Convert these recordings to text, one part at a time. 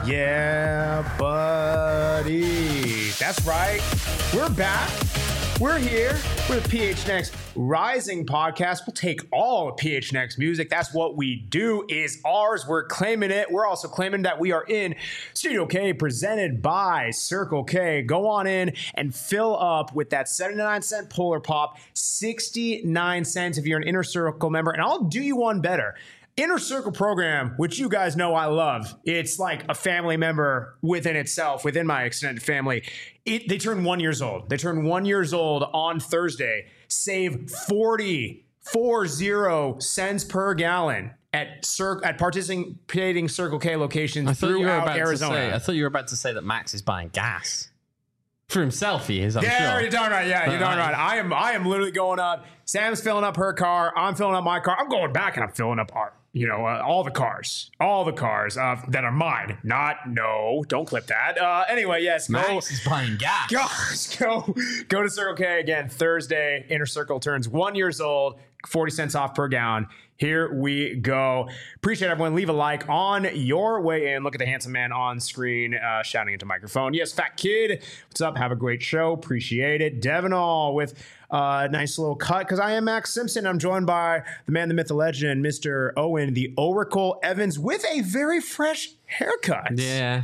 Yeah, buddy. That's right. We're back. We're here. We're the PHNX Rising podcast. We'll take all of PHNX music. That's what we do, is ours. We're claiming it. We're also claiming that we are in Studio K, presented by Circle K. Go on in and fill up with that 79-cent Polar Pop, 69 cents if you're an Inner Circle member. And I'll do you one better. Inner Circle program, which you guys know I love. It's like a family member within itself, within my extended family. They turn 1 year old. They turn 1 year old on Thursday. Save 40 cents per gallon at participating Circle K locations throughout Arizona. I thought you were about to say that Max is buying gas. For himself, he is, I'm sure. Yeah, you're darn right. Yeah, you're darn right. I am literally going up. Sam's filling up her car. I'm filling up my car. I'm going back and I'm filling up all the cars that are mine. Don't clip that. Anyway, yes. Max is buying gas. Go to Circle K again Thursday. Inner Circle turns 1 year old. 40 cents off per gallon. Here we go. Appreciate everyone. Leave a like on your way in. Look at the handsome man on screen shouting into microphone. Yes, Fat Kid. What's up? Have a great show. Appreciate it. Devinall with a nice little cut, because I am Max Simpson. I'm joined by the man, the myth, the legend, Mr. Owen, the Oracle Evans, with a very fresh haircut. Yeah.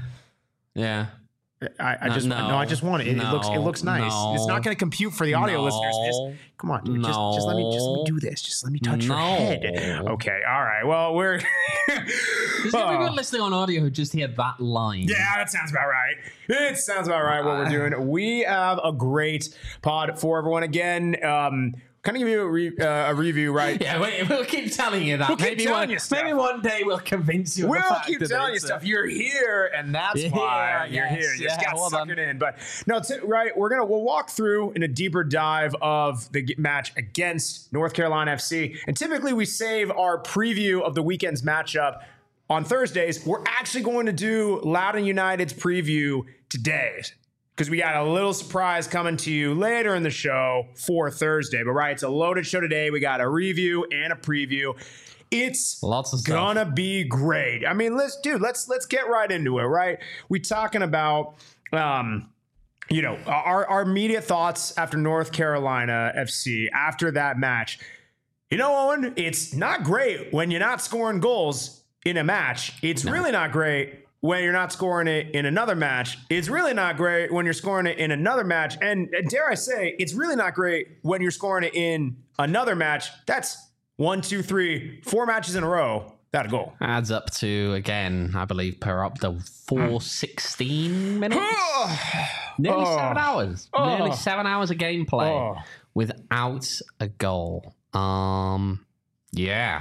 I just want it. It looks nice. It's not going to compute for the audio listeners. Come on, dude. Just let me do this. Just let me touch your head. Okay, all right. Well, we're There's everyone listening on audio who just hear that line. Yeah, that sounds about right. It sounds about right what we're doing. We have a great pod for everyone again. Kind of give you a review, right? Yeah, we'll keep telling you that. Maybe one day we'll convince you. We'll keep telling you stuff. You're here, and that's why you're here. You just got suckered in. But no, right. We'll walk through in a deeper dive of the match against North Carolina FC, and typically we save our preview of the weekend's matchup on Thursdays. We're actually going to do Loudoun United's preview today, because we got a little surprise coming to you later in the show for Thursday. But right, it's a loaded show today. We got a review and a preview. It's gonna be great. I mean, let's get right into it, right? We talking about our immediate thoughts after North Carolina FC, after that match. Owen, it's not great when you're not scoring goals in a match. It's really not great when you're not scoring it in another match. It's really not great when you're scoring it in another match. And dare I say, it's really not great when you're scoring it in another match. That's 4 matches in a row. That a goal. Adds up to, again, I believe, per up to 416 minutes. Nearly 7 hours. Nearly 7 hours of gameplay without a goal. Yeah.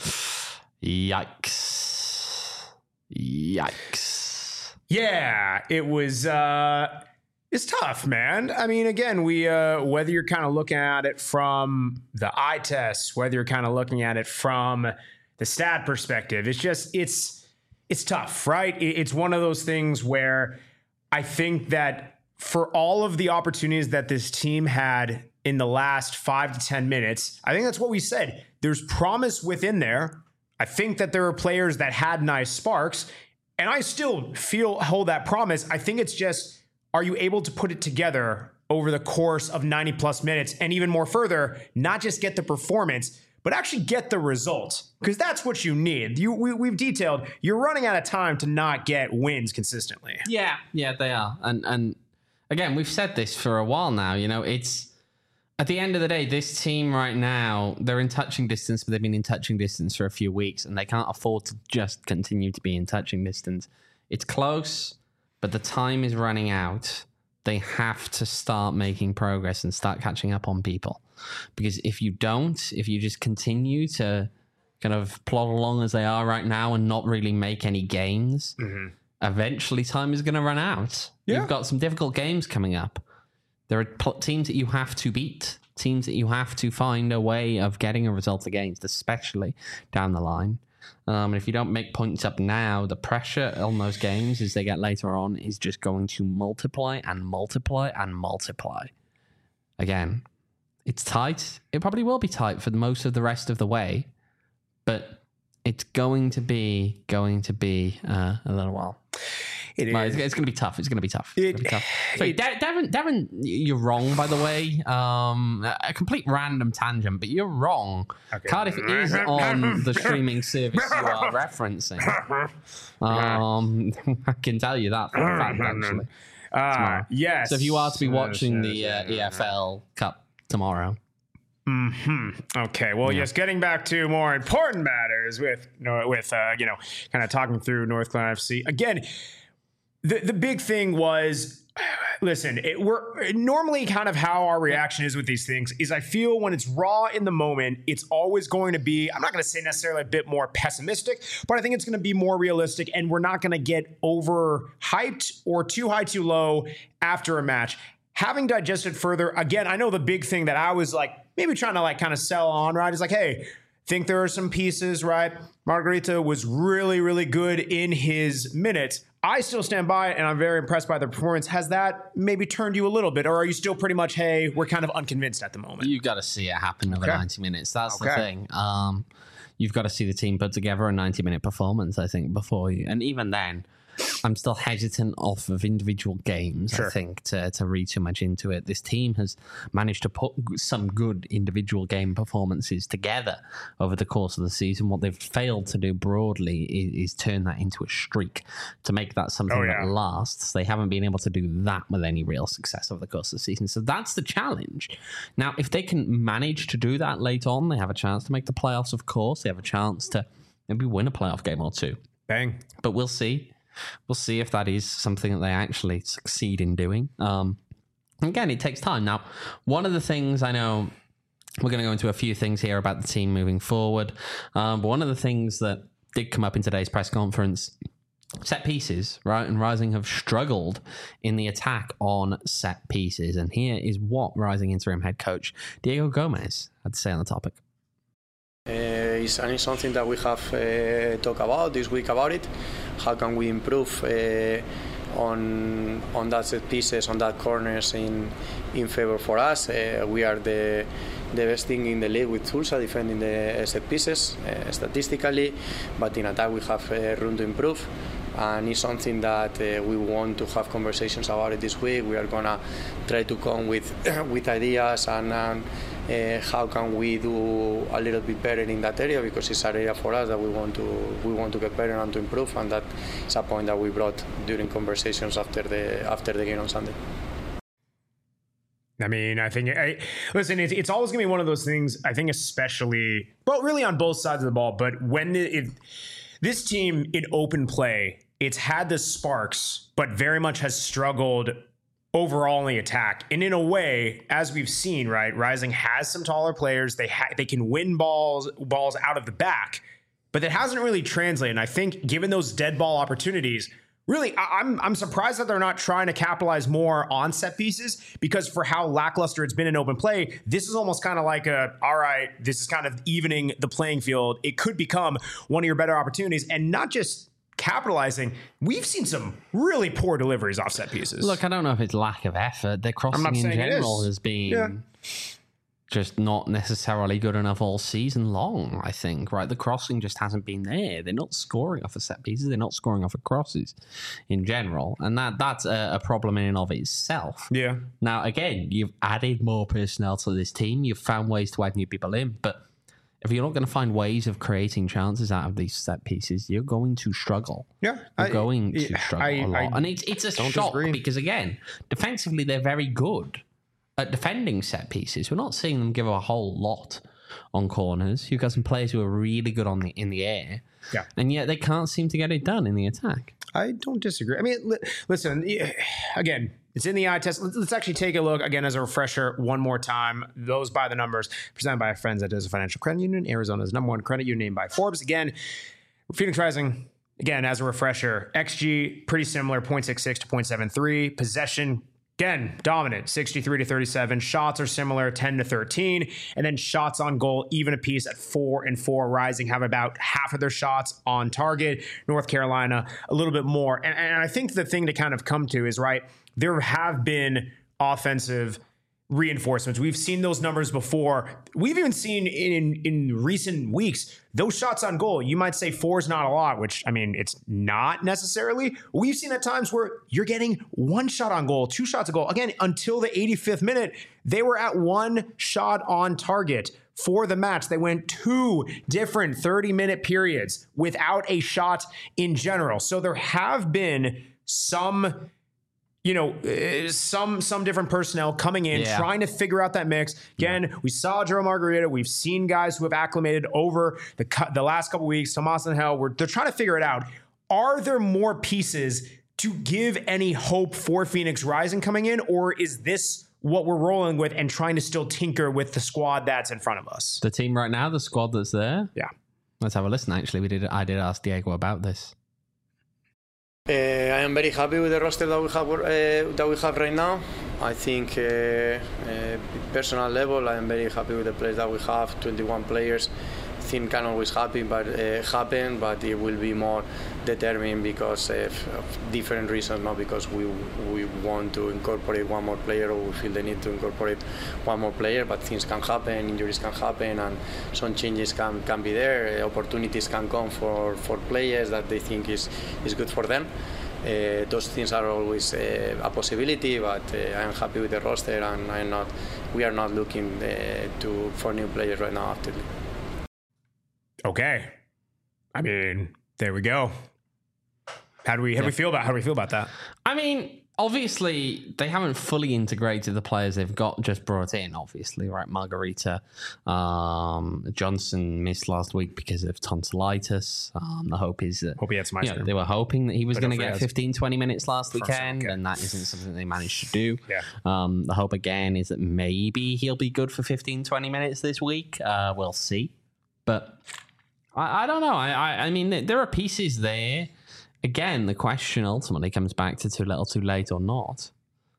Yikes. Yeah, it was it's tough, man. I mean, again, we whether you're kind of looking at it from the eye test, whether you're kind of looking at it from the stat perspective, it's tough, right? It's one of those things where I think that for all of the opportunities that this team had in the last 5 to 10 minutes, I think that's what we said. There's promise within there. I think that there are players that had nice sparks, and I still hold that promise. I think it's just, are you able to put it together over the course of 90 plus minutes, and even more further, not just get the performance, but actually get the result? Because that's what you need. We've detailed, you're running out of time to not get wins consistently. Yeah, they are. And again, we've said this for a while now. It's, at the end of the day, this team right now, they're in touching distance, but they've been in touching distance for a few weeks, and they can't afford to just continue to be in touching distance. It's close, but the time is running out. They have to start making progress and start catching up on people. Because if you just continue to kind of plod along as they are right now and not really make any gains, eventually time is going to run out. Yeah. You've got some difficult games coming up. There are teams that you have to beat, teams that you have to find a way of getting a result against, especially down the line. And if you don't make points up now, the pressure on those games as they get later on is just going to multiply and multiply and multiply. Again, it's tight. It probably will be tight for most of the rest of the way, but it's going to be a little while. It is. It's going to be tough. It's going to be tough. So, Devin, you're wrong, by the way. A complete random tangent, but you're wrong. Okay. Cardiff is on the streaming service you are referencing. I can tell you that for a fact, actually. Yes. So if you are to be watching the EFL Cup tomorrow. Okay. Well, yes. Getting back to more important matters with kind of talking through North Carolina FC again. The big thing was, listen, we're normally kind of how our reaction is with these things is I feel when it's raw in the moment, it's always going to be, I'm not going to say necessarily a bit more pessimistic, but I think it's going to be more realistic and we're not going to get over hyped or too high, too low after a match. Having digested further, again, I know the big thing that I was like maybe trying to like kind of sell on, right? Is like, hey, think there are some pieces, right? Margarita was really, really good in his minutes. I still stand by it, and I'm very impressed by the performance. Has that maybe turned you a little bit, or are you still pretty much, hey, we're kind of unconvinced at the moment? You've got to see it happen over 90 minutes. That's the thing. You've got to see the team put together a 90-minute performance, I think, before you. And even then, I'm still hesitant off of individual games, I think, to read too much into it. This team has managed to put some good individual game performances together over the course of the season. What they've failed to do broadly is turn that into a streak to make that something that lasts. They haven't been able to do that with any real success over the course of the season. So that's the challenge. Now, if they can manage to do that late on, they have a chance to make the playoffs, of course. They have a chance to maybe win a playoff game or two. Bang. But we'll see. We'll see if that is something that they actually succeed in doing. Again, it takes time. Now, one of the things I know, we're going to go into a few things here about the team moving forward. But one of the things that did come up in today's press conference, set pieces, right? And Rising have struggled in the attack on set pieces. And here is what Rising interim head coach Diego Gomez had to say on the topic. It's something that we have talked about this week about it. How can we improve on that set pieces, on that corners in favor for us? We are the best thing in the league with Tulsa defending the set pieces statistically, but in attack we have room to improve. And it's something that we want to have conversations about it this week. We are gonna try to come with ideas and how can we do a little bit better in that area, because it's an area for us that we want to get better and to improve, and that is a point that we brought during conversations after the game on Sunday. I mean, I think, listen, it's always going to be one of those things, I think especially, well, really on both sides of the ball, but when this team in open play, it's had the sparks, but very much has struggled overall in the attack. And in a way, as we've seen, right, Rising has some taller players. They can win balls out of the back, but that hasn't really translated. And I think given those dead ball opportunities, really, I'm surprised that they're not trying to capitalize more on set pieces, because for how lackluster it's been in open play, this is almost kind of like all right, this is kind of evening the playing field. It could become one of your better opportunities, and not just capitalizing. We've seen some really poor deliveries off set pieces. Look, I don't know if it's lack of effort. Their crossing in general has been just not necessarily good enough all season long, I think, right? The crossing just hasn't been there. They're not scoring off of set pieces. They're not scoring off of crosses in general. And that's a problem in and of itself. Yeah. Now, again, you've added more personnel to this team. You've found ways to add new people in. But if you're not going to find ways of creating chances out of these set pieces, you're going to struggle. Yeah. You're going to struggle a lot. And it's a shock because, again, defensively, they're very good at defending set pieces. We're not seeing them give a whole lot on corners. You've got some players who are really good in the air, and yet they can't seem to get it done in the attack. I don't disagree. I mean, listen, again, it's in the eye test. Let's actually take a look again as a refresher one more time. Those by the numbers presented by our friends at Desert Financial Credit Union, Arizona's #1 credit union by Forbes. Again, Phoenix Rising, again, as a refresher, XG, pretty similar, 0.66 to 0.73. Possession, again, dominant, 63 to 37. Shots are similar, 10 to 13. And then shots on goal, even a piece at 4 and 4. Rising have about half of their shots on target. North Carolina, a little bit more. And I think the thing to kind of come to is, right, there have been offensive reinforcements. We've seen those numbers before. We've even seen in recent weeks, those shots on goal. You might say 4 is not a lot, which, I mean, it's not necessarily. We've seen at times where you're getting 1 shot on goal, 2 shots on goal. Again, until the 85th minute, they were at 1 shot on target for the match. They went 2 different 30-minute periods without a shot in general. So there have been some different personnel coming in, trying to figure out that mix. Again, we saw Joe Margarita. We've seen guys who have acclimated over the last couple of weeks. Tomas Angel, they're trying to figure it out. Are there more pieces to give any hope for Phoenix Rising coming in, or is this what we're rolling with and trying to still tinker with the squad that's in front of us? The team right now, the squad that's there? Yeah. Let's have a listen, actually. I did ask Diego about this. I am very happy with the roster that we have right now. I think, personal level, I am very happy with the players that we have. 21 players. Things can always happen, but it will be more determined because of different reasons, not because we want to incorporate one more player or we feel the need to incorporate one more player. But things can happen, injuries can happen, and some changes can be there. Opportunities can come for players that they think is good for them. Those things are always a possibility, but I am happy with the roster, and we are not looking for new players right now actively. Okay. I mean, there we go. How do we feel about that? I mean, obviously, they haven't fully integrated the players they've got just brought in, obviously, right? Margarita, Johnson missed last week because of tonsillitis. The hope is that he had some ice cream. They were hoping that he was going to get 15, 20 minutes last weekend, and that isn't something they managed to do. Yeah. The hope, again, is that maybe he'll be good for 15, 20 minutes this week. We'll see. But I don't know. I mean, there are pieces there. Again, the question ultimately comes back to too little, too late or not.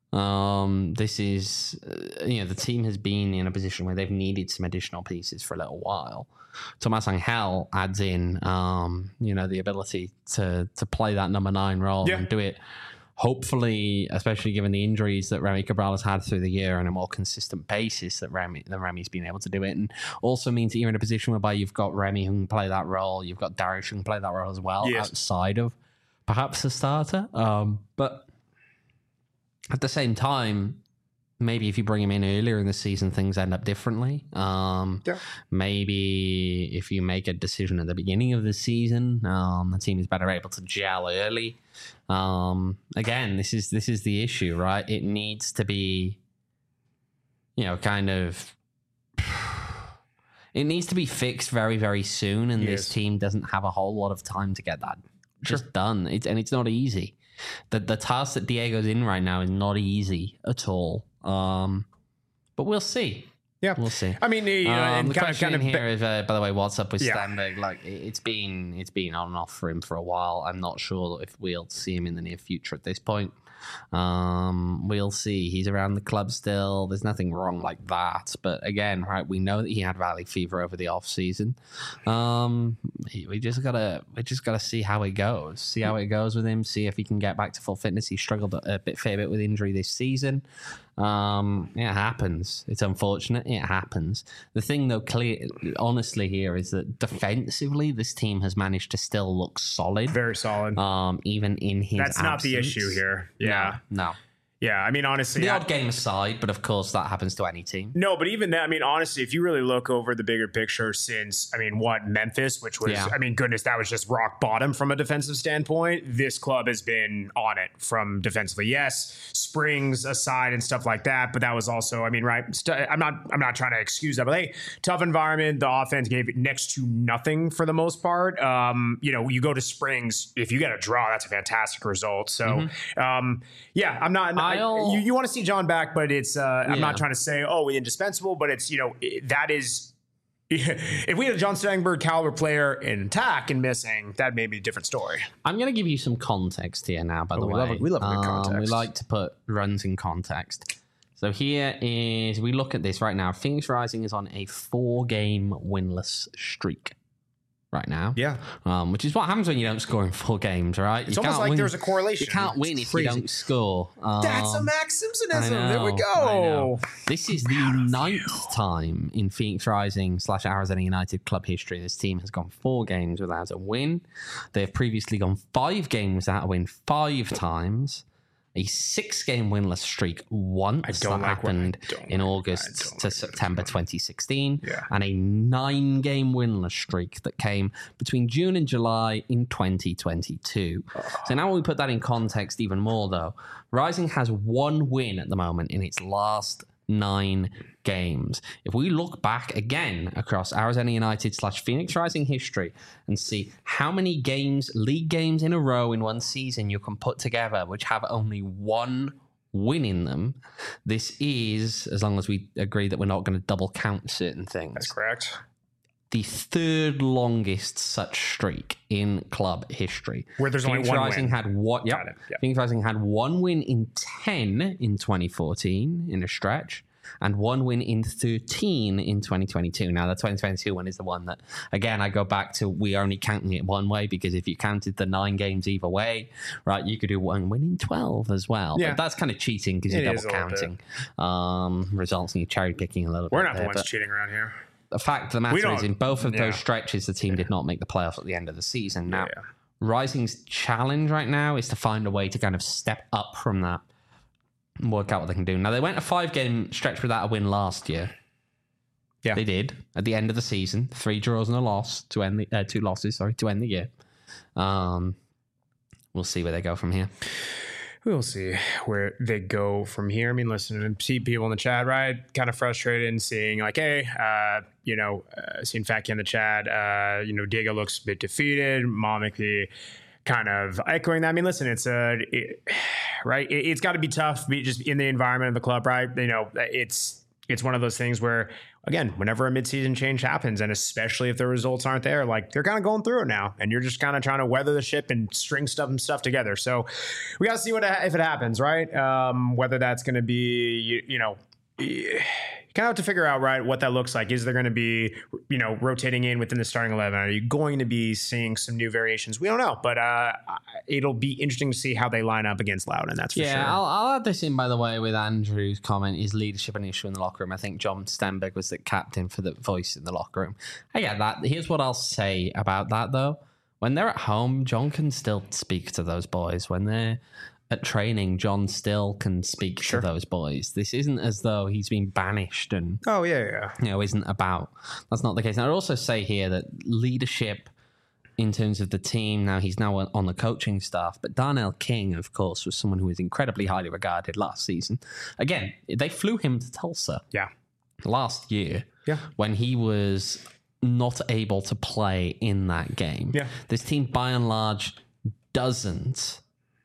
This is, the team has been in a position where they've needed some additional pieces for a little while. Tomas Angel adds in, the ability to play that number 9 role and do it, hopefully, especially given the injuries that Remy Cabral has had through the year on a more consistent basis, that Remy's been able to do it. And also means that you're in a position whereby you've got Remy who can play that role, you've got Darius who can play that role as well, outside of perhaps a starter. But at the same time, maybe if you bring him in earlier in the season, things end up differently. Maybe if you make a decision at the beginning of the season, the team is better able to gel early. Again, this is the issue, right? It needs to be, it needs to be fixed very, very soon, and this team doesn't have a whole lot of time to get that just done. It's not easy. The task that Diego's in right now is not easy at all. But we'll see. Yeah, we'll see. I mean, and the question here is, by the way, what's up with Stenberg? Like, it's been on and off for him for a while. I'm not sure if we'll see him in the near future at this point. We'll see. He's around the club still. There's nothing wrong like that. But again, right, we know that he had valley fever over the off season. We just gotta see how it goes. See how it goes with him. See if he can get back to full fitness. He struggled a fair bit with injury this season. It happens. It's unfortunate. It happens. The thing, though, honestly, here is that defensively, this team has managed to still look solid. Very solid. Even in his That's absence. not the issue here. Yeah. No. Yeah, I mean, honestly... The odd game aside, but of course that happens to any team. No, but even that, I mean, honestly, if you really look over the bigger picture since, Memphis, which was, goodness, that was just rock bottom from a defensive standpoint. This club has been on it from defensively. Yes, Springs aside and stuff like that, but that was also, I'm not trying to excuse that, but hey, tough environment. The offense gave it next to nothing for the most part. You go to Springs, if you get a draw, that's a fantastic result. So, I'm not... You want to see John back, but it's I'm not trying to say, indispensable, but it's, that is, if we had a John Stenberg caliber player in attack and missing, that may be a different story. I'm going to give you some context here now, by the way. We love good context. We like to put runs in context. So here is, we look at this right now. Phoenix Rising is on a 4-game winless streak. right now. Yeah. Which is what happens when you don't score in 4 games, right? It's almost like there's a correlation. You can't win if you don't score. That's a Max Simpsonism. There we I go. know. This is the 9th time in Phoenix Rising / Arizona United club history this team has gone 4 games without a win. They have previously gone 5 games without a win 5 times. A 6-game winless streak once that happened in August to September 2016, and a 9-game winless streak that came between June and July in 2022. So now when we put that in context even more, though, Rising has 1 win at the moment in its last 9 games. If we look back again across Arizona United / Phoenix Rising history and see how many games, league games in a row in one season you can put together which have only 1 win in them, this is, as long as we agree that we're not going to double count certain things. That's correct. The 3rd longest such streak in club history. Where there's Phoenix only 1 Rising win. Had what? Yep. Phoenix Rising had 1 win in 10 in 2014 in a stretch, and 1 win in 13 in 2022. Now, the 2022 one is the one that, again, I go back to, we're only counting it one way, because if you counted the 9 games either way, right, you could do 1 win in 12 as well. Yeah. But that's kind of cheating because you're double counting. Results in you cherry picking a little bit. We're not the ones cheating around here. The fact of the matter is, in both of those stretches, the team did not make the playoffs at the end of the season. Now, Rising's challenge right now is to find a way to kind of step up from that and work out what they can do. Now, they went a 5-game stretch without a win last year. Yeah, they did at the end of the season. 3 draws and a loss to end the 2 losses. To end the year. We'll see where they go from here. We'll see where they go from here. I mean, listen, and see people in the chat, right? Kind of frustrated and seeing like, hey, seeing Fatki in the chat, Diego looks a bit defeated. Momiki kind of echoing that. I mean, listen, it's right. It's got to be tough, just in the environment of the club, right? It's one of those things where, again, whenever a midseason change happens, and especially if the results aren't there, like they're kind of going through it now, and you're just kind of trying to weather the ship and string stuff together. So we got to see if it happens, right? Whether that's going to be, you kind of have to figure out, right, what that looks like. Is there going to be, rotating in within the starting 11? Are you going to be seeing some new variations? We don't know, but it'll be interesting to see how they line up against Loudoun, that's for sure. Yeah, I'll add this in, by the way, with Andrew's comment, is leadership an issue in the locker room? I think John Stenberg was the captain for the voice in the locker room. I get that. Here's what I'll say about that, though. When they're at home, John can still speak to those boys. When they're at training, John still can speak to those boys. This isn't as though he's been banished and isn't about. That's not the case. And I'd also say here that leadership in terms of the team, now he's now on the coaching staff, but Darnell King, of course, was someone who was incredibly highly regarded last season. Again, they flew him to Tulsa last year when he was not able to play in that game. This team, by and large, doesn't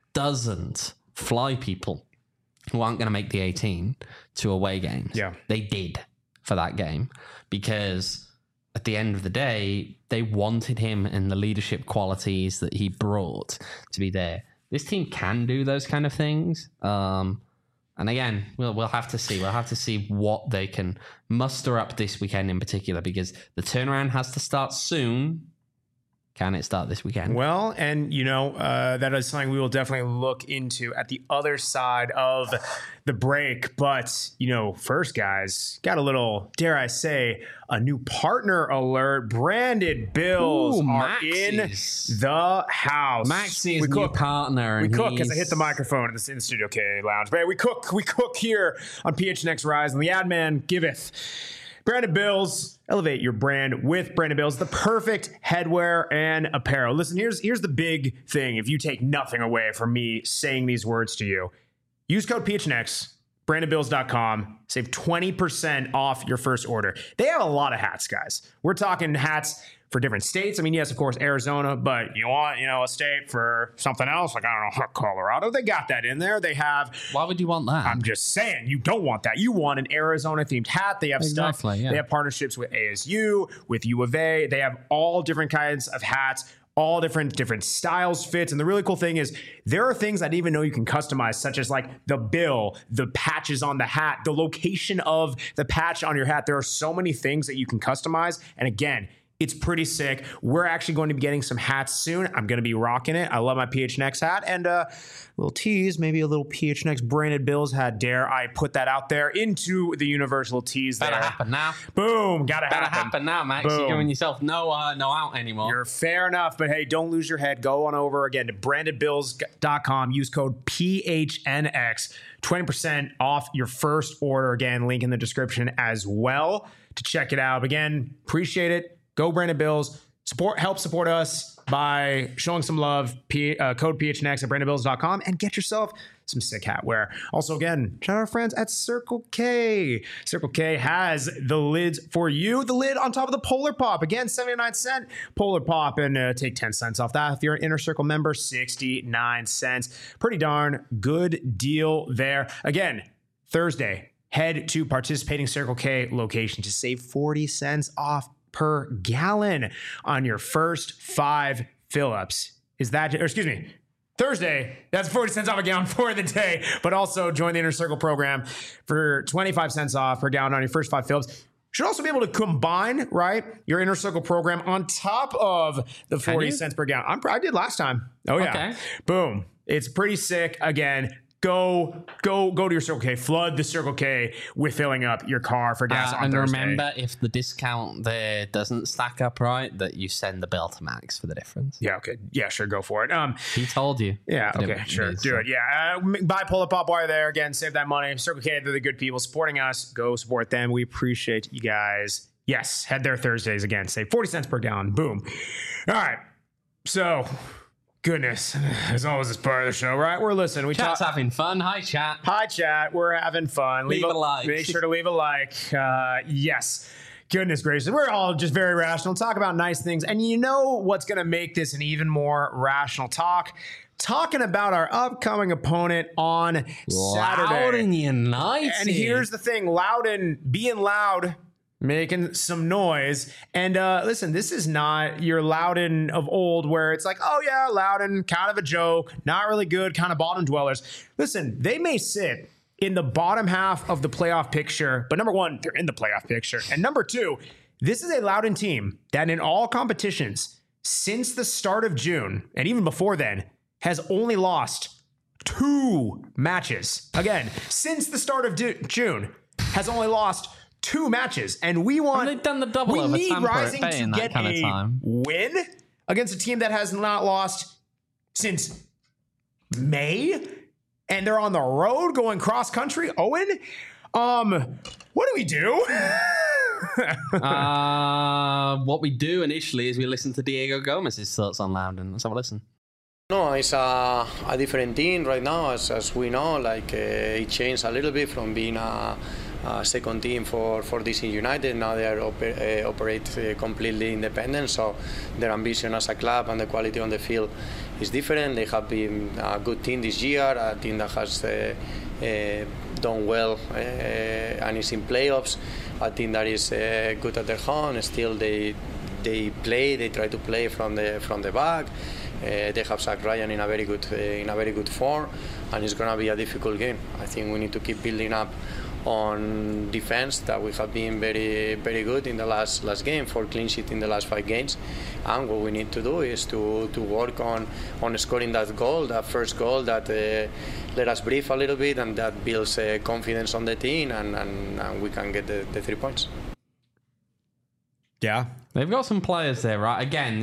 fly people who aren't going to make the 18 to away games. They did for that game because at the end of the day, they wanted him and the leadership qualities that he brought to be there. This team can do those kind of things. And again, we'll have to see. We'll have to see what they can muster up this weekend in particular, because the turnaround has to start soon. Can it start this weekend? Well, and that is something we will definitely look into at the other side of the break. But, first, guys, got a little, dare I say, a new partner alert. Branded Bills are in the house. Maxie's new partner. We cook as I hit the microphone in the Studio K Lounge. But we cook here on PHNX Rise, and the ad man giveth. Branded Bills, elevate your brand with Branded Bills, the perfect headwear and apparel. Listen, here's the big thing. If you take nothing away from me saying these words to you, use code PHNX, brandedbills.com, save 20% off your first order. They have a lot of hats, guys. We're talking hats for different states. I mean, yes, of course, Arizona, but you want, a state for something else, like, I don't know, Colorado. They got that in there. They have... Why would you want that? I'm just saying, you don't want that. You want an Arizona-themed hat. They have stuff. Yeah. They have partnerships with ASU, with U of A. They have all different kinds of hats, all different styles, fits. And the really cool thing is there are things I didn't even know you can customize, such as like the bill, the patches on the hat, the location of the patch on your hat. There are so many things that you can customize. And again, It's pretty sick. We're actually going to be getting some hats soon. I'm going to be rocking it. I love my PHNX hat. And a little tease, maybe a little PHNX branded Bills hat. Dare I put that out there into the universal tease there. Better happen now. Boom. Gotta happen now, Max. Boom. You're giving yourself no out anymore. You're fair enough. But hey, don't lose your head. Go on over again to brandedbills.com. Use code PHNX. 20% off your first order. Again, link in the description as well to check it out. Again, appreciate it. Go Branded Bills. Help support us by showing some love. Code PHNX at brandedbills.com and get yourself some sick hat wear. Also, again, shout out our friends at Circle K. Circle K has the lids for you. The lid on top of the Polar Pop. Again, 79-cent Polar Pop. And take 10 cents off that. If you're an Inner Circle member, 69 cents. Pretty darn good deal there. Again, Thursday, head to participating Circle K location to save 40 cents off per gallon on your first 5 fill-ups. Thursday, that's 40 cents off a gallon for the day, but also join the Inner Circle program for 25 cents off per gallon on your first 5 fill-ups. Should also be able to combine, right, your Inner Circle program on top of the 40 cents per gallon. I did last time. Oh, yeah. Okay. Boom. It's pretty sick. Again, Go to your Circle K. Flood the Circle K with filling up your car for gas on Thursday. And remember, if the discount there doesn't stack up right, that you send the bill to Max for the difference. Yeah, okay. Yeah, sure, go for it. He told you. Yeah, okay, sure. Do it. Yeah, buy Polar Pop while you're there. Again, save that money. Circle K, they're the good people supporting us. Go support them. We appreciate you guys. Yes, head there Thursdays again. Save 40 cents per gallon. Boom. All right. So... Goodness, as always, it's part of the show, right? We're listening. Chat's having fun. Hi, chat. Hi, chat. We're having fun. Leave a like. Make sure to leave a like. Yes. Goodness gracious. We're all just very rational. Talk about nice things. And you know what's going to make this an even more rational talk? Talking about our upcoming opponent on Saturday. Loudoun United. And here's the thing. Loudoun being loud, making some noise. And listen, this is not your Loudoun of old where it's like, oh yeah, Loudoun, kind of a joke, not really good, kind of bottom dwellers. Listen, they may sit in the bottom half of the playoff picture, but number one, they're in the playoff picture. And number two, this is a Loudoun team that in all competitions since the start of June, and even before then, has only lost 2 matches. Again, since the start of June, has only lost 2 matches, and we want. They've done the double we over need Tampa Rising Bay to in that get kind of time. Win against a team that has not lost since May, and they're on the road going cross country. Owen, what do we do? What we do initially is we listen to Diego Gomez's thoughts on Loudoun. Let's have a listen. No, it's a different team right now, as we know. Like it changed a little bit from being a second team for DC United. Now they are operate completely independent, so their ambition as a club and the quality on the field is different. They have been a good team this year, a team that has done well and is in playoffs, a team that is good at their home. Still they try to play from the back. They have Zach Ryan in a very good form, and it's going to be a difficult game. I think we need to keep building up on defense that we have been very good in the last game, 4 clean sheet in the last 5 games, and what we need to do is to work on scoring that first goal that let us breathe a little bit, and that builds confidence on the team, and we can get the 3 points. Yeah, they've got some players there, right? Again,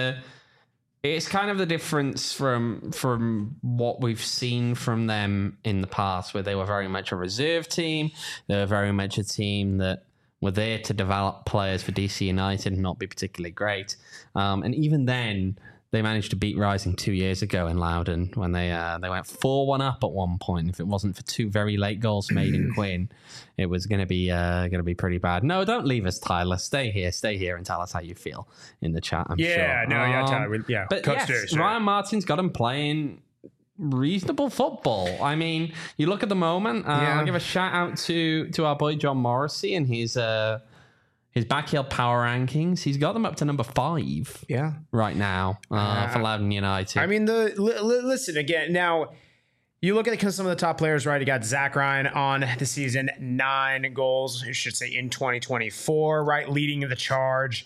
it's kind of the difference from what we've seen from them in the past, where they were very much a reserve team. They were very much a team that were there to develop players for DC United and not be particularly great. And even then, they managed to beat Rising 2 years ago in Loudoun when they went 4-1 up at one point. If it wasn't for 2 very late goals made in Quinn, it was going to be pretty bad. No, don't leave us, Tyler. Stay here and tell us how you feel in the chat. I'm sure. Tyler. Yeah, but Coach yes, Ryan Martin's got him playing reasonable football. I mean, you look at the moment. I'll give a shout out to our boy John Morrissey and his backyard power rankings. He's got them up to number 5. Yeah, right now for Loudoun United. I mean, listen again. Now, you look at some of the top players, right? You got Zach Ryan on the season, 9 goals, I should say, in 2024, right, leading the charge.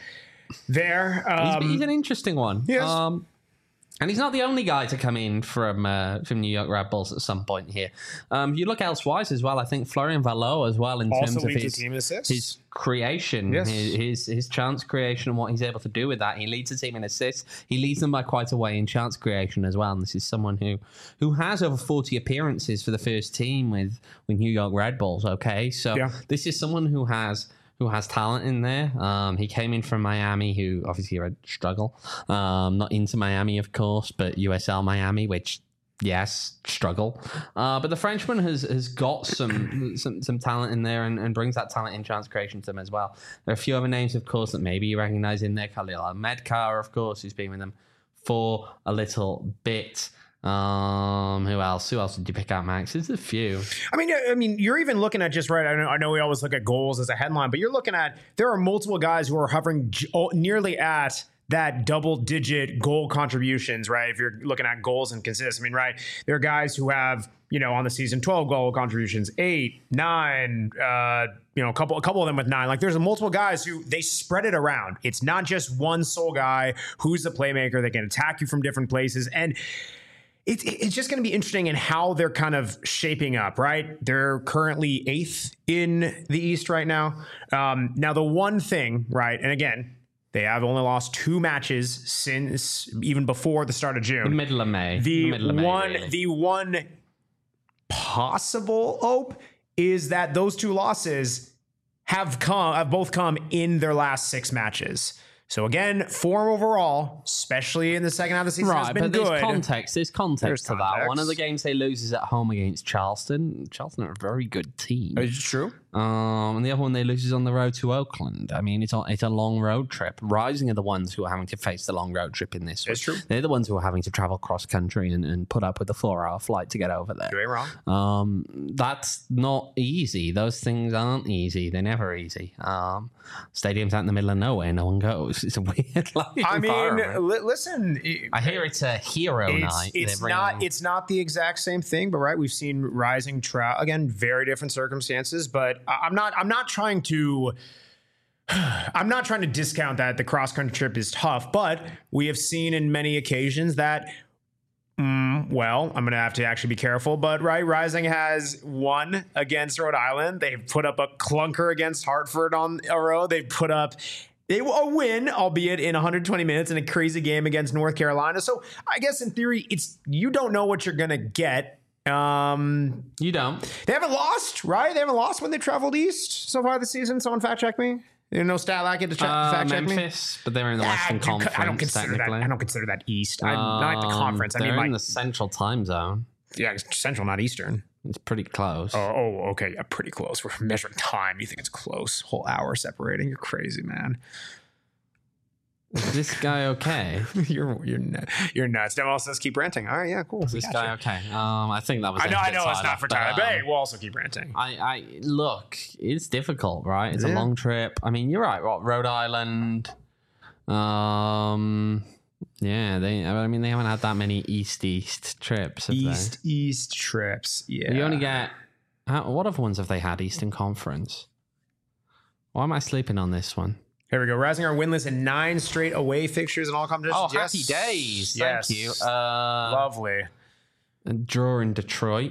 there. He's an interesting one. Yes. And he's not the only guy to come in from New York Red Bulls at some point here. You look elsewise as well. I think Florian Valot as well in terms of his creation, yes. his chance creation and what he's able to do with that. He leads the team in assists. He leads them by quite a way in chance creation as well. And this is someone who has over 40 appearances for the first team with New York Red Bulls. Okay, so this is someone who has talent in there. He came in from Miami, who obviously had struggle. Not into Miami, of course, but USL Miami, which, yes, struggle. But the Frenchman has got some talent in there and brings that talent in chance creation to them as well. There are a few other names, of course, that maybe you recognize in there. Khalil Ahmedkar, of course, who's been with them for a little bit. Who else? Who else did you pick out, Max? There's a few. I mean, you're even looking at just right. I know we always look at goals as a headline, but you're looking at there are multiple guys who are hovering nearly at that double-digit goal contributions, right? If you're looking at goals and consists, I mean, right? There are guys who have, on the season 12 goal contributions, 8, 9, a couple of them with 9. Like there's multiple guys who they spread it around. It's not just one sole guy who's the playmaker that can attack you from different places. And it's just going to be interesting in how they're kind of shaping up, right? They're currently 8th in the East right now. Now, the one thing, right, and again, they have only lost 2 matches since even before the start of June. The middle of May. The one possible hope is that those 2 losses have both come in their last 6 matches. So again, form overall, especially in the second half of the season, has been good. There's context to that. One of the games they lose is at home against Charleston. Charleston are a very good team. Is it true? And the other one they lose is on the road to Oakland. I mean, it's a long road trip. Rising are the ones who are having to face the long road trip in this one. It's true. They're the ones who are having to travel cross country and put up with the 4-hour flight to get over there. You ain't wrong. That's not easy. Those things aren't easy. They're never easy. Stadium's out in the middle of nowhere. No one goes. It's a weird life. I mean, listen. I hear it's a hero night. It's not the exact same thing, but right, we've seen Rising again, very different circumstances, but I'm not trying to discount that the cross country trip is tough, but we have seen in many occasions that I'm going to have to actually be careful, but right, Rising has won against Rhode Island. They've put up a clunker against Hartford on a road. They've put up a win, albeit in 120 minutes in a crazy game against North Carolina. So I guess in theory, you don't know what you're going to get. You don't. They haven't lost, right? They haven't lost when they traveled east so far this season. Someone fact check me. There's no stat like it to fact check me. Memphis, but they're in the Western Conference. I don't consider that east. Not like the conference. They're in the Central Time Zone. Yeah, Central, not Eastern. It's pretty close. Oh, okay. Yeah, pretty close. We're measuring time. You think it's close? Whole hour separating. You're crazy, man. Is this guy okay? You're nuts. Demo says keep ranting. All right, yeah, cool. Is this guy okay? I think that was. I know it's not for Tyler, but hey, we'll also keep ranting. I look, it's difficult, right? It's a long trip. I mean, you're right. Rhode Island. Yeah, they haven't had that many east trips. East trips. Yeah, you only get. What other ones have they had? Eastern Conference. Why am I sleeping on this one? Here we go. Rising are winless in 9 straight away fixtures in all competitions. Oh, happy days. Thank you. Lovely. A draw in Detroit.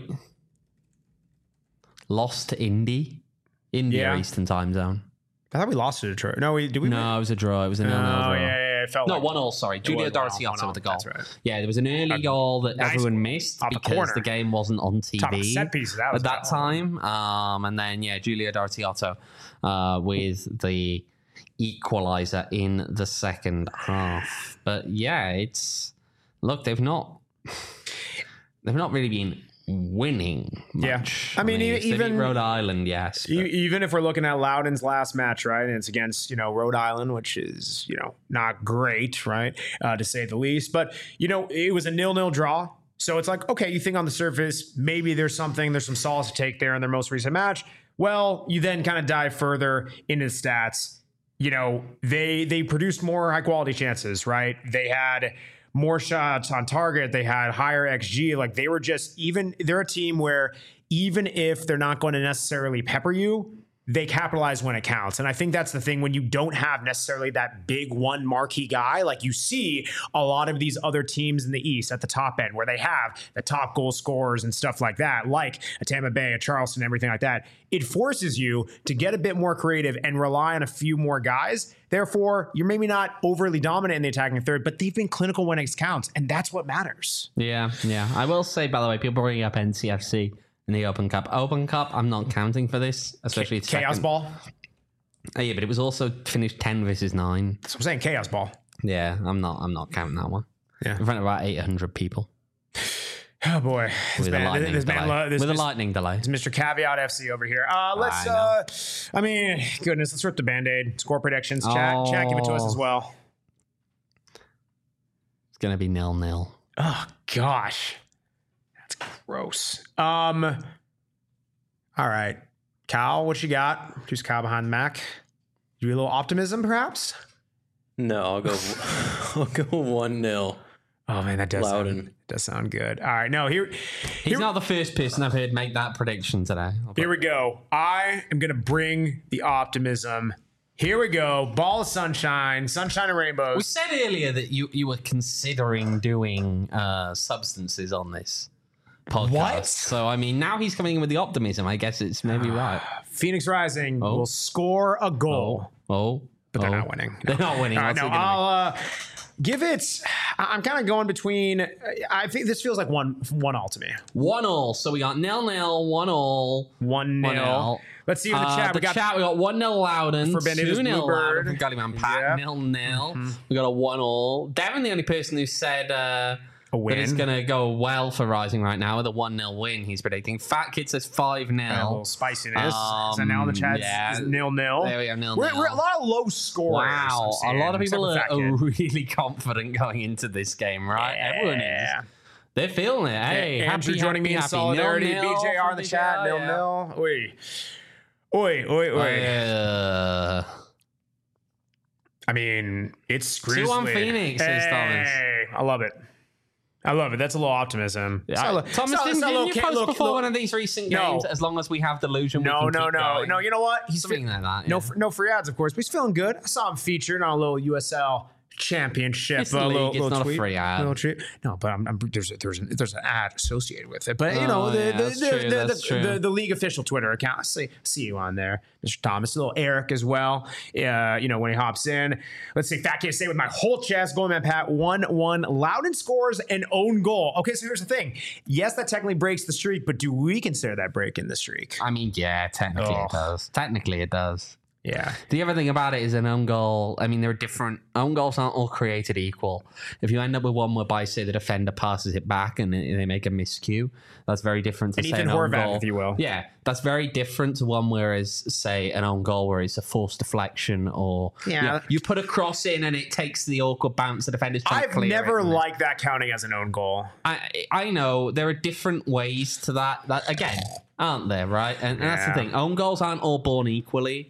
Lost to India, Eastern Time Zone. I thought we lost to Detroit. No, did we? No, it was a draw. It was a 0-0 draw. Yeah. It felt 1-0, sorry. Giulio Dorotioto with the goal. That's right. Yeah, there was an early goal that everyone missed because the game wasn't on TV set pieces, at that time. And then, Giulio Dorotioto with the equalizer in the second half. But yeah, they've not really been winning much. I mean even Rhode Island, yes. Even if we're looking at Loudoun's last match, right, and it's against Rhode Island, which is not great, right, to say the least. But it was a 0-0 draw. So it's like, okay, you think on the surface maybe there's some solace to take there in their most recent match. Well, you then kind of dive further into the stats. They produced more high quality chances, right? They had more shots on target. They had higher XG. Like they're a team where even if they're not going to necessarily pepper you, they capitalize when it counts. And I think that's the thing when you don't have necessarily that big one marquee guy, like you see a lot of these other teams in the East at the top end where they have the top goal scorers and stuff like that, like a Tampa Bay, a Charleston, everything like that. It forces you to get a bit more creative and rely on a few more guys. Therefore, you're maybe not overly dominant in the attacking third, but they've been clinical when it counts. And that's what matters. Yeah. I will say, by the way, people bringing up NCFC in the Open Cup. Open Cup, I'm not counting for this, especially Chaos Ball. Oh, yeah, but it was also finished 10 versus 9. That's what I'm saying, Chaos Ball. Yeah, I'm not counting that one. Yeah. In front of about 800 people. Oh boy, With a lightning delay. It's Mr. Caveat FC over here. I mean, goodness, let's rip the Band-Aid. Score predictions, chat. Chat, give it to us as well. It's gonna be 0-0. Oh gosh. Gross. All right. Kyle, what you got? Who's Kyle behind the Mac? You a little optimism, perhaps? No, I'll go 1-0. Oh man, that does sound good. All right. No, he's not the first person I've heard make that prediction today. Here we go. I am gonna bring the optimism. Here we go. Ball of sunshine and rainbows. We said earlier that you were considering doing substances on this podcast. What? So, I mean, now he's coming in with the optimism. I guess it's maybe right. Phoenix Rising will score a goal. But they're not winning. They're not winning. I'll give it... I'm kind of going between... I think this feels like 1-1 to me. 1-1. So we got 0-0, 1-1. 1-0. Let's see in the chat. We got 1-0 Loudon, for 2-0 Loudon from Gullyman Pat, 0-0. We got a 1-1. Devin, the only person who said... a win. That it's going to go well for Rising right now with a 1-0 win, he's predicting. Fat Kid says 5-0. A little spiciness. Is that now in the chat? Yeah. 0-0. There we go, 0-0. We're a lot of low scores. Wow. A lot of people are really confident going into this game, right? Yeah. Everyone is. They're feeling it. Hey, Andrew joining me in solidarity. BJR in the chat. 0-0. Oi. I mean, it's grisly. 2-1 Phoenix, says Thomas. I love it. That's a little optimism. Yeah. Thomas, didn't you post before one of these recent games, as long as we have delusion, we can keep going? No, you know what? He's something like that. Yeah. No free ads, of course, but he's feeling good. I saw him featured on a little USL championship. It's the league. It's not a free ad. Little treat. No, but there's an ad associated with it. But the league official Twitter account. I see you on there, Mr. Thomas. A little Eric as well. When he hops in. Let's see. Fat Kid say with my whole chest. Goalman Pat 1-1. Loudon scores an own goal. Okay, so here's the thing. Yes, that technically breaks the streak, but do we consider that breaking the streak? I mean, yeah, technically it does. Technically it does. Yeah. The other thing about it is an own goal. I mean, there are different own goals aren't all created equal. If you end up with one whereby, say, the defender passes it back and they make a miscue, that's very different to say an own goal. If you will. Yeah, that's very different to one whereas, say, an own goal where it's a forced deflection or you put a cross in and it takes the awkward bounce. The defender's trying to clear it. I've never liked that counting as an own goal. I know there are different ways to that again, aren't there? Right, and that's the thing. Own goals aren't all born equally.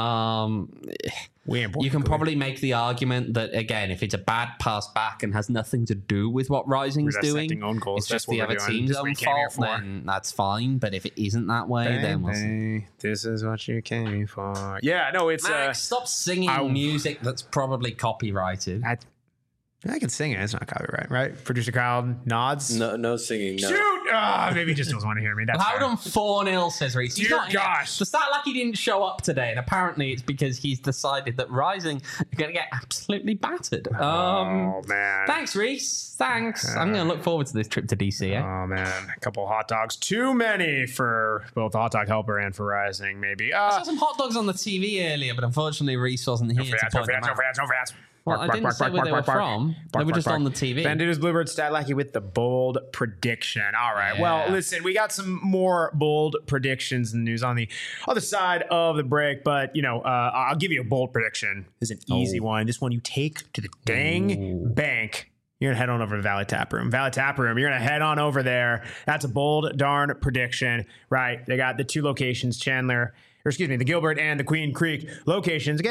You can probably make the argument that, again, if it's a bad pass back and has nothing to do with what Rising's doing, it's just the other team's own fault, then that's fine. But if it isn't that way, then we'll see. This is what you came for. Yeah, no, it's... Max, stop singing music that's probably copyrighted. I can sing it. It's not copyright, right? Producer Kyle nods. No singing. No. Shoot! Maybe he just doesn't want to hear me. That's Loudon 4-0, says Reese. Dear gosh. The stat like he didn't show up today, and apparently it's because he's decided that Rising are going to get absolutely battered. Oh, man. Thanks, Reese. Thanks. I'm going to look forward to this trip to DC. Oh, man. A couple of hot dogs. Too many for both the Hot Dog Helper and for Rising, maybe. I saw some hot dogs on the TV earlier, but unfortunately Reese wasn't here to point them out. Well, I didn't say where they were from. They were just on the TV. Banditas Bluebird Stat Lackey with the bold prediction. All right. Yeah. Well, listen, we got some more bold predictions and news on the other side of the break. But, I'll give you a bold prediction. This is an easy one. This one you take to the dang bank. You're going to head on over to Valley Tap Room. Valley Tap Room, you're going to head on over there. That's a bold darn prediction, right? They got the two locations, the Gilbert and the Queen Creek locations. Again,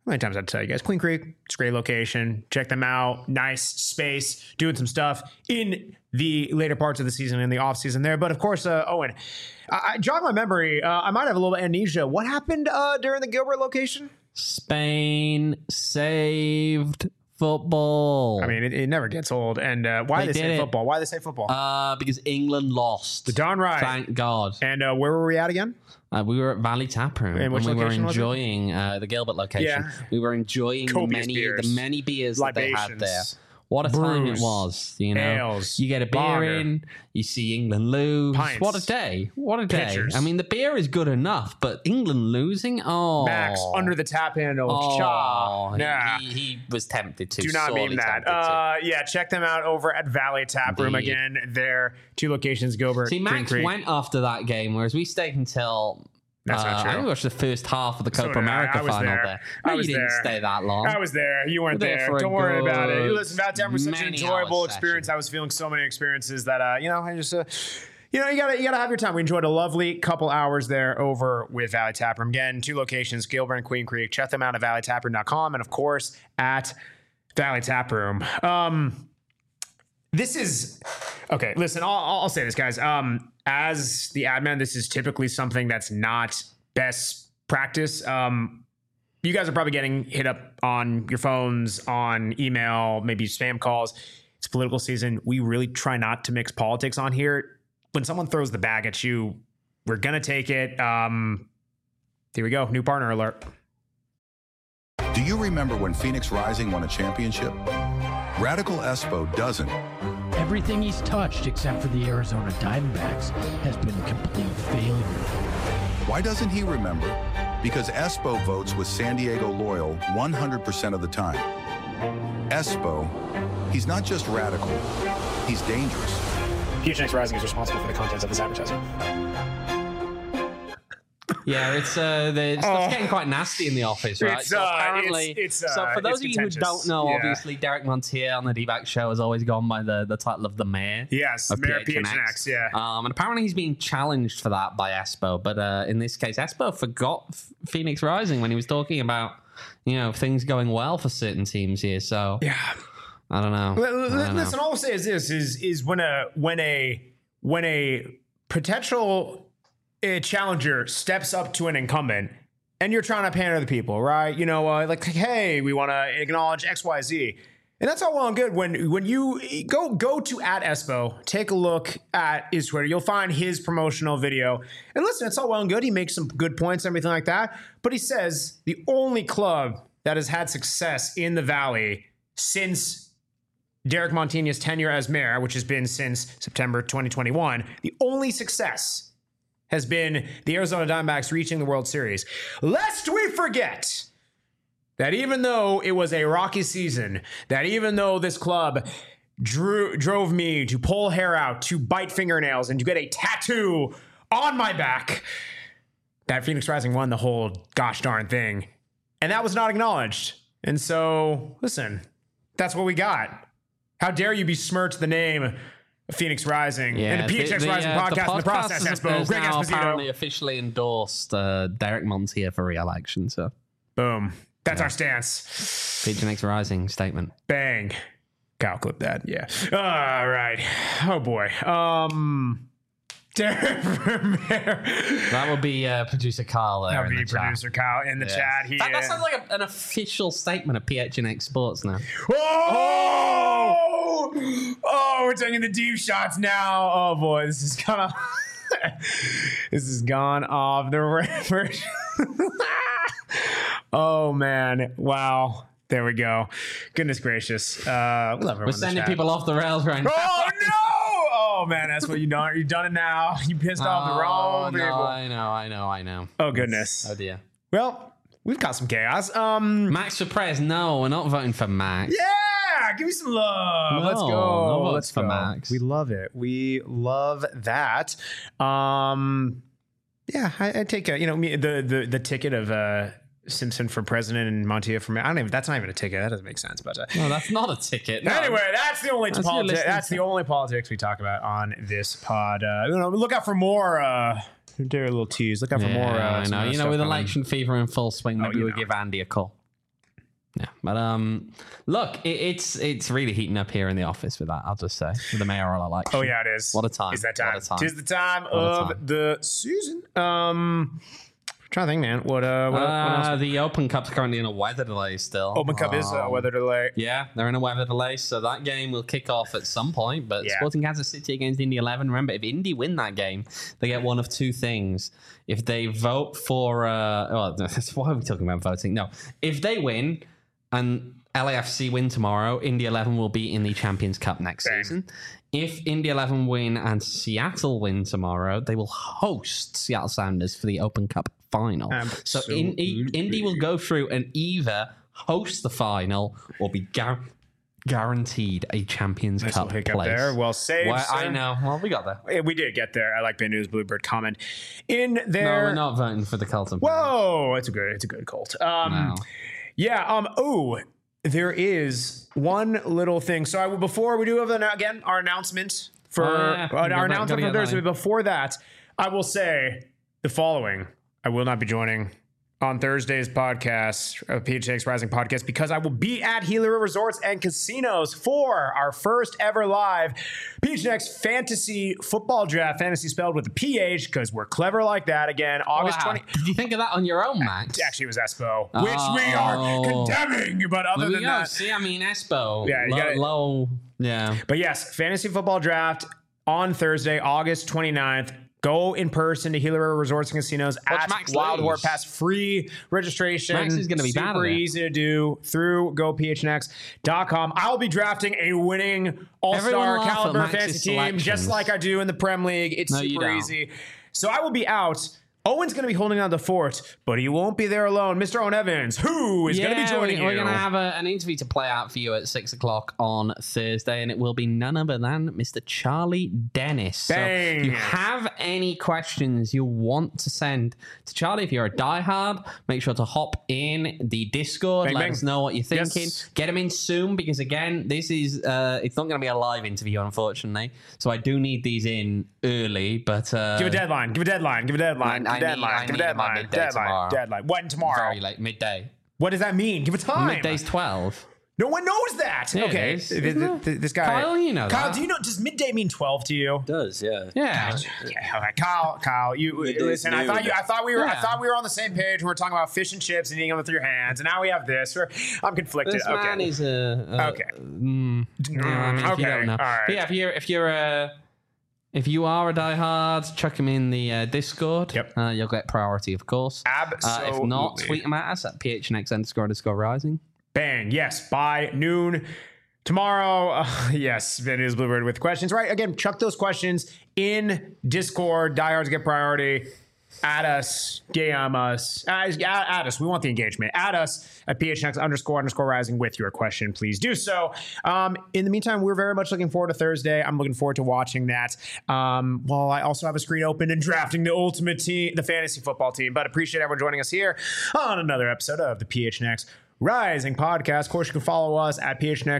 many times I'd tell you guys, Queen Creek, it's a great location. Check them out. Nice space, doing some stuff in the later parts of the season, in the off season there. But of course, Owen, I jog my memory. I might have a little amnesia. What happened during the Gilbert location? Spain saved football. I mean, it never gets old. And why they say football? Why they say football? Because England lost. Darn right. Thank God. And where were we at again? We were at Valley Taproom, and we were enjoying the Gilbert location. Yeah. We were enjoying the many beers that they had there. What a time it was, you know. Ales, you get a beer lager, in, you see England lose. pints, what a day. What a day. pitchers. I mean, the beer is good enough, but England losing? Oh. Max, under the tap handle. Oh, Nah. he was tempted to. Do not mean that. Yeah, check them out over at Valley Taproom. Again, their 2 locations, Gilbert, See, Max went after that game, whereas we stayed until... That's not true. I watched the first half of the Copa America final there. No, you didn't stay that long. I was there. You weren't there. Don't worry about it. Listen, Valley Taproom was such an enjoyable experience. I was feeling so many experiences that, I just... you gotta have your time. We enjoyed a lovely couple hours there over with Valley Taproom. Again, 2 locations, Gilbert and Queen Creek. Check them out at valleytaproom.com and of course at Valley Taproom. This is okay. Listen, I'll say this, guys. As the admin, this is typically something that's not best practice. You guys are probably getting hit up on your phones, on email, maybe spam calls. It's political season. We really try not to mix politics on here. When someone throws the bag at you, we're gonna take it. Here we go. New partner alert. Do you remember when Phoenix Rising won a championship? Radical Espo doesn't. Everything he's touched, except for the Arizona Diamondbacks, has been a complete failure. Why doesn't he remember? Because Espo votes with San Diego loyal 100% of the time. Espo, he's not just radical, he's dangerous. PHNX Rising is responsible for the contents of this advertising. Yeah, it's the stuff's getting quite nasty in the office, right? It's, so apparently, so for those of you who don't know, obviously Derek Montier on the D-Back Show has always gone by the title of the mayor. Yes, of Mayor PHNX, yeah. And apparently he's being challenged for that by Espo, but in this case, Espo forgot Phoenix Rising when he was talking about things going well for certain teams here. So yeah, I don't know. Listen, all I'll say is this: is when a potential challenger steps up to an incumbent and you're trying to pander to the people, right? Like, hey, we want to acknowledge XYZ. And that's all well and good. When you go to @Espo, take a look at his Twitter, you'll find his promotional video. And listen, it's all well and good. He makes some good points and everything like that. But he says the only club that has had success in the Valley since Derek Montigny's tenure as mayor, which has been since September 2021, the only success has been the Arizona Diamondbacks reaching the World Series. Lest we forget that even though it was a rocky season, that even though this club drove me to pull hair out, to bite fingernails, and to get a tattoo on my back, that Phoenix Rising won the whole gosh darn thing. And that was not acknowledged. And so, listen, that's what we got. How dare you besmirch the name Phoenix Rising and the PHX Rising podcast in the process, Espo. Greg now Esposito apparently officially endorsed Derek Montier for re-election. So, boom. That's our stance. PHX Rising statement. Bang. Kyle, clip that. Yeah. All right. Oh boy. Derek Vermeer. That would be producer Kyle there. That would be producer Kyle in the chat. That sounds like an official statement of PHNX Sports now. Oh, we're taking the deep shots now. Oh boy, this is kind of this has gone off the river. Oh man, wow. There we go. Goodness gracious. We're sending people off the rails right now. Oh no! Oh man, that's what you done. You've done it now. You pissed off the wrong people. I know. Oh goodness. Oh dear. Well, we've got some chaos. Max for Prez. No, we're not voting for Max. Yeah, give me some love. No, Let's go. No votes Let's for go. Max. We love it. We love that. Yeah, I take the ticket of Simpson for president and Montier for mayor. I don't even. That's not even a ticket. That doesn't make sense. But no, that's not a ticket. No. Anyway, that's the only politics. That's the only politics we talk about on this pod. Look out for more. Do a little tease. Look out for more. I know. With election fever in full swing, maybe we'll give Andy a call. Yeah, but look, it's really heating up here in the office with that. I'll just say with the mayoral election. Oh yeah, it is. What a time! Is that time? What a time! Tis the time of the season. Trying to think, man. What else? The Open Cup's currently in a weather delay still. Open Cup is a weather delay. Yeah, they're in a weather delay, so that game will kick off at some point. But Sporting Kansas City against Indy 11. Remember, if Indy win that game, they get one of two things. If they vote for, why are we talking about voting? No, if they win and LAFC win tomorrow, Indy 11 will be in the Champions Cup next season. If Indy 11 win and Seattle win tomorrow, they will host Seattle Sounders for the Open Cup final. Absolutely. So Indy will go through and either host the final or be guaranteed a Champions Cup place. There. Well saved, I know. Well, we got there. We did get there. I like Ben News Bluebird comment in there. No, we're not voting for the Colton. Whoa, it's a good cult. No. Yeah. There is one little thing. So before we do have our announcement for our announcement for Thursday. Before that, I will say the following: I will not be joining on Thursday's podcast, PHNX Rising podcast, because I will be at Gila Resorts and Casinos for our first ever live PHNX Fantasy Football Draft. Fantasy spelled with a PH because we're clever like that. Again, August 20. Did you think of that on your own, Max? Actually, it was Espo, which we are condemning. But other than that, see, I mean, Espo. Yeah, low. Yeah. But yes, Fantasy Football Draft on Thursday, August 29th. Go in person to Gila Resorts and Casinos at Wild War Pass. Free registration. Max is going to be super easy to do through gophnx.com. I'll be drafting a winning all-star caliber fantasy team just like I do in the Prem League. It's super easy. So I will be out. Owen's going to be holding down the fort, but he won't be there alone. Mr. Owen Evans, who is going to be joining you. We're going to have an interview to play out for you at 6 o'clock on Thursday, and it will be none other than Mr. Charlie Dennis. Bang. So if you have any questions you want to send to Charlie, if you're a diehard, make sure to hop in the Discord. Let us know what you're thinking. Yes. Get him in soon, because again, this is it's not going to be a live interview, unfortunately. So I do need these in early, but give a deadline. Deadline. When tomorrow? Very late, midday. What does that mean? Give a time. Midday's 12. No one knows that. Yeah, okay. This guy. Kyle, you know Kyle, that. do you know, does midday mean 12 to you? It does, yeah. Yeah. All right, Kyle, you listen. I thought we were on the same page. We were talking about fish and chips and eating them with your hands, and now we have this. I'm conflicted. This man is okay. If you don't know. All right. But yeah, if you are a diehard, chuck him in the Discord. Yep. You'll get priority, of course. Absolutely. If not, tweet him at us at PHNX__rising. Bang. Yes. By noon tomorrow. Yes. Ben is Bluebird with questions. Right. Again, chuck those questions in Discord. Diehards get priority. Add us, DM us, add us. We want the engagement. Add us at PHNX__rising with your question. Please do so. In the meantime, we're very much looking forward to Thursday. I'm looking forward to watching that. While I also have a screen open and drafting the ultimate team, the fantasy football team. But appreciate everyone joining us here on another episode of the PHNX Rising podcast. Of course, you can follow us at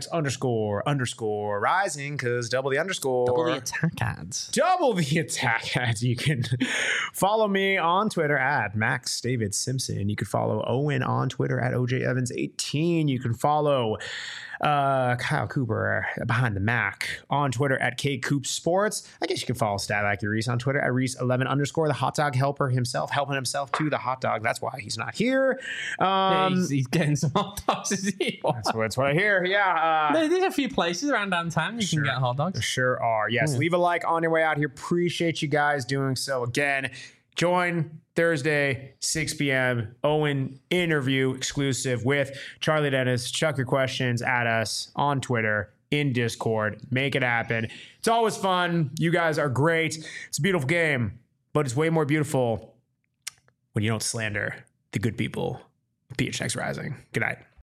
PHNX__rising, because double the underscore. Double the attack ads. Double the attack ads. You can follow me on Twitter at Max David Simpson. You can follow Owen on Twitter at OJEvans18. You can follow Kyle Cooper behind the Mac on Twitter at KCoopSports. I guess you can follow Stat Reese on Twitter at Reese11_ the hot dog helper himself, helping himself to the hot dog. That's why he's not here. He's getting some hot dogs. That's what I hear. Yeah. There's a few places around downtown you can get hot dogs. There sure are. Yes. Leave a like on your way out here. Appreciate you guys doing so. Again, join Thursday, 6 p.m. Owen interview exclusive with Charlie Dennis. Chuck your questions at us on Twitter, in Discord. Make it happen. It's always fun. You guys are great. It's a beautiful game, but it's way more beautiful when you don't slander the good people of PHNX Rising. Good night.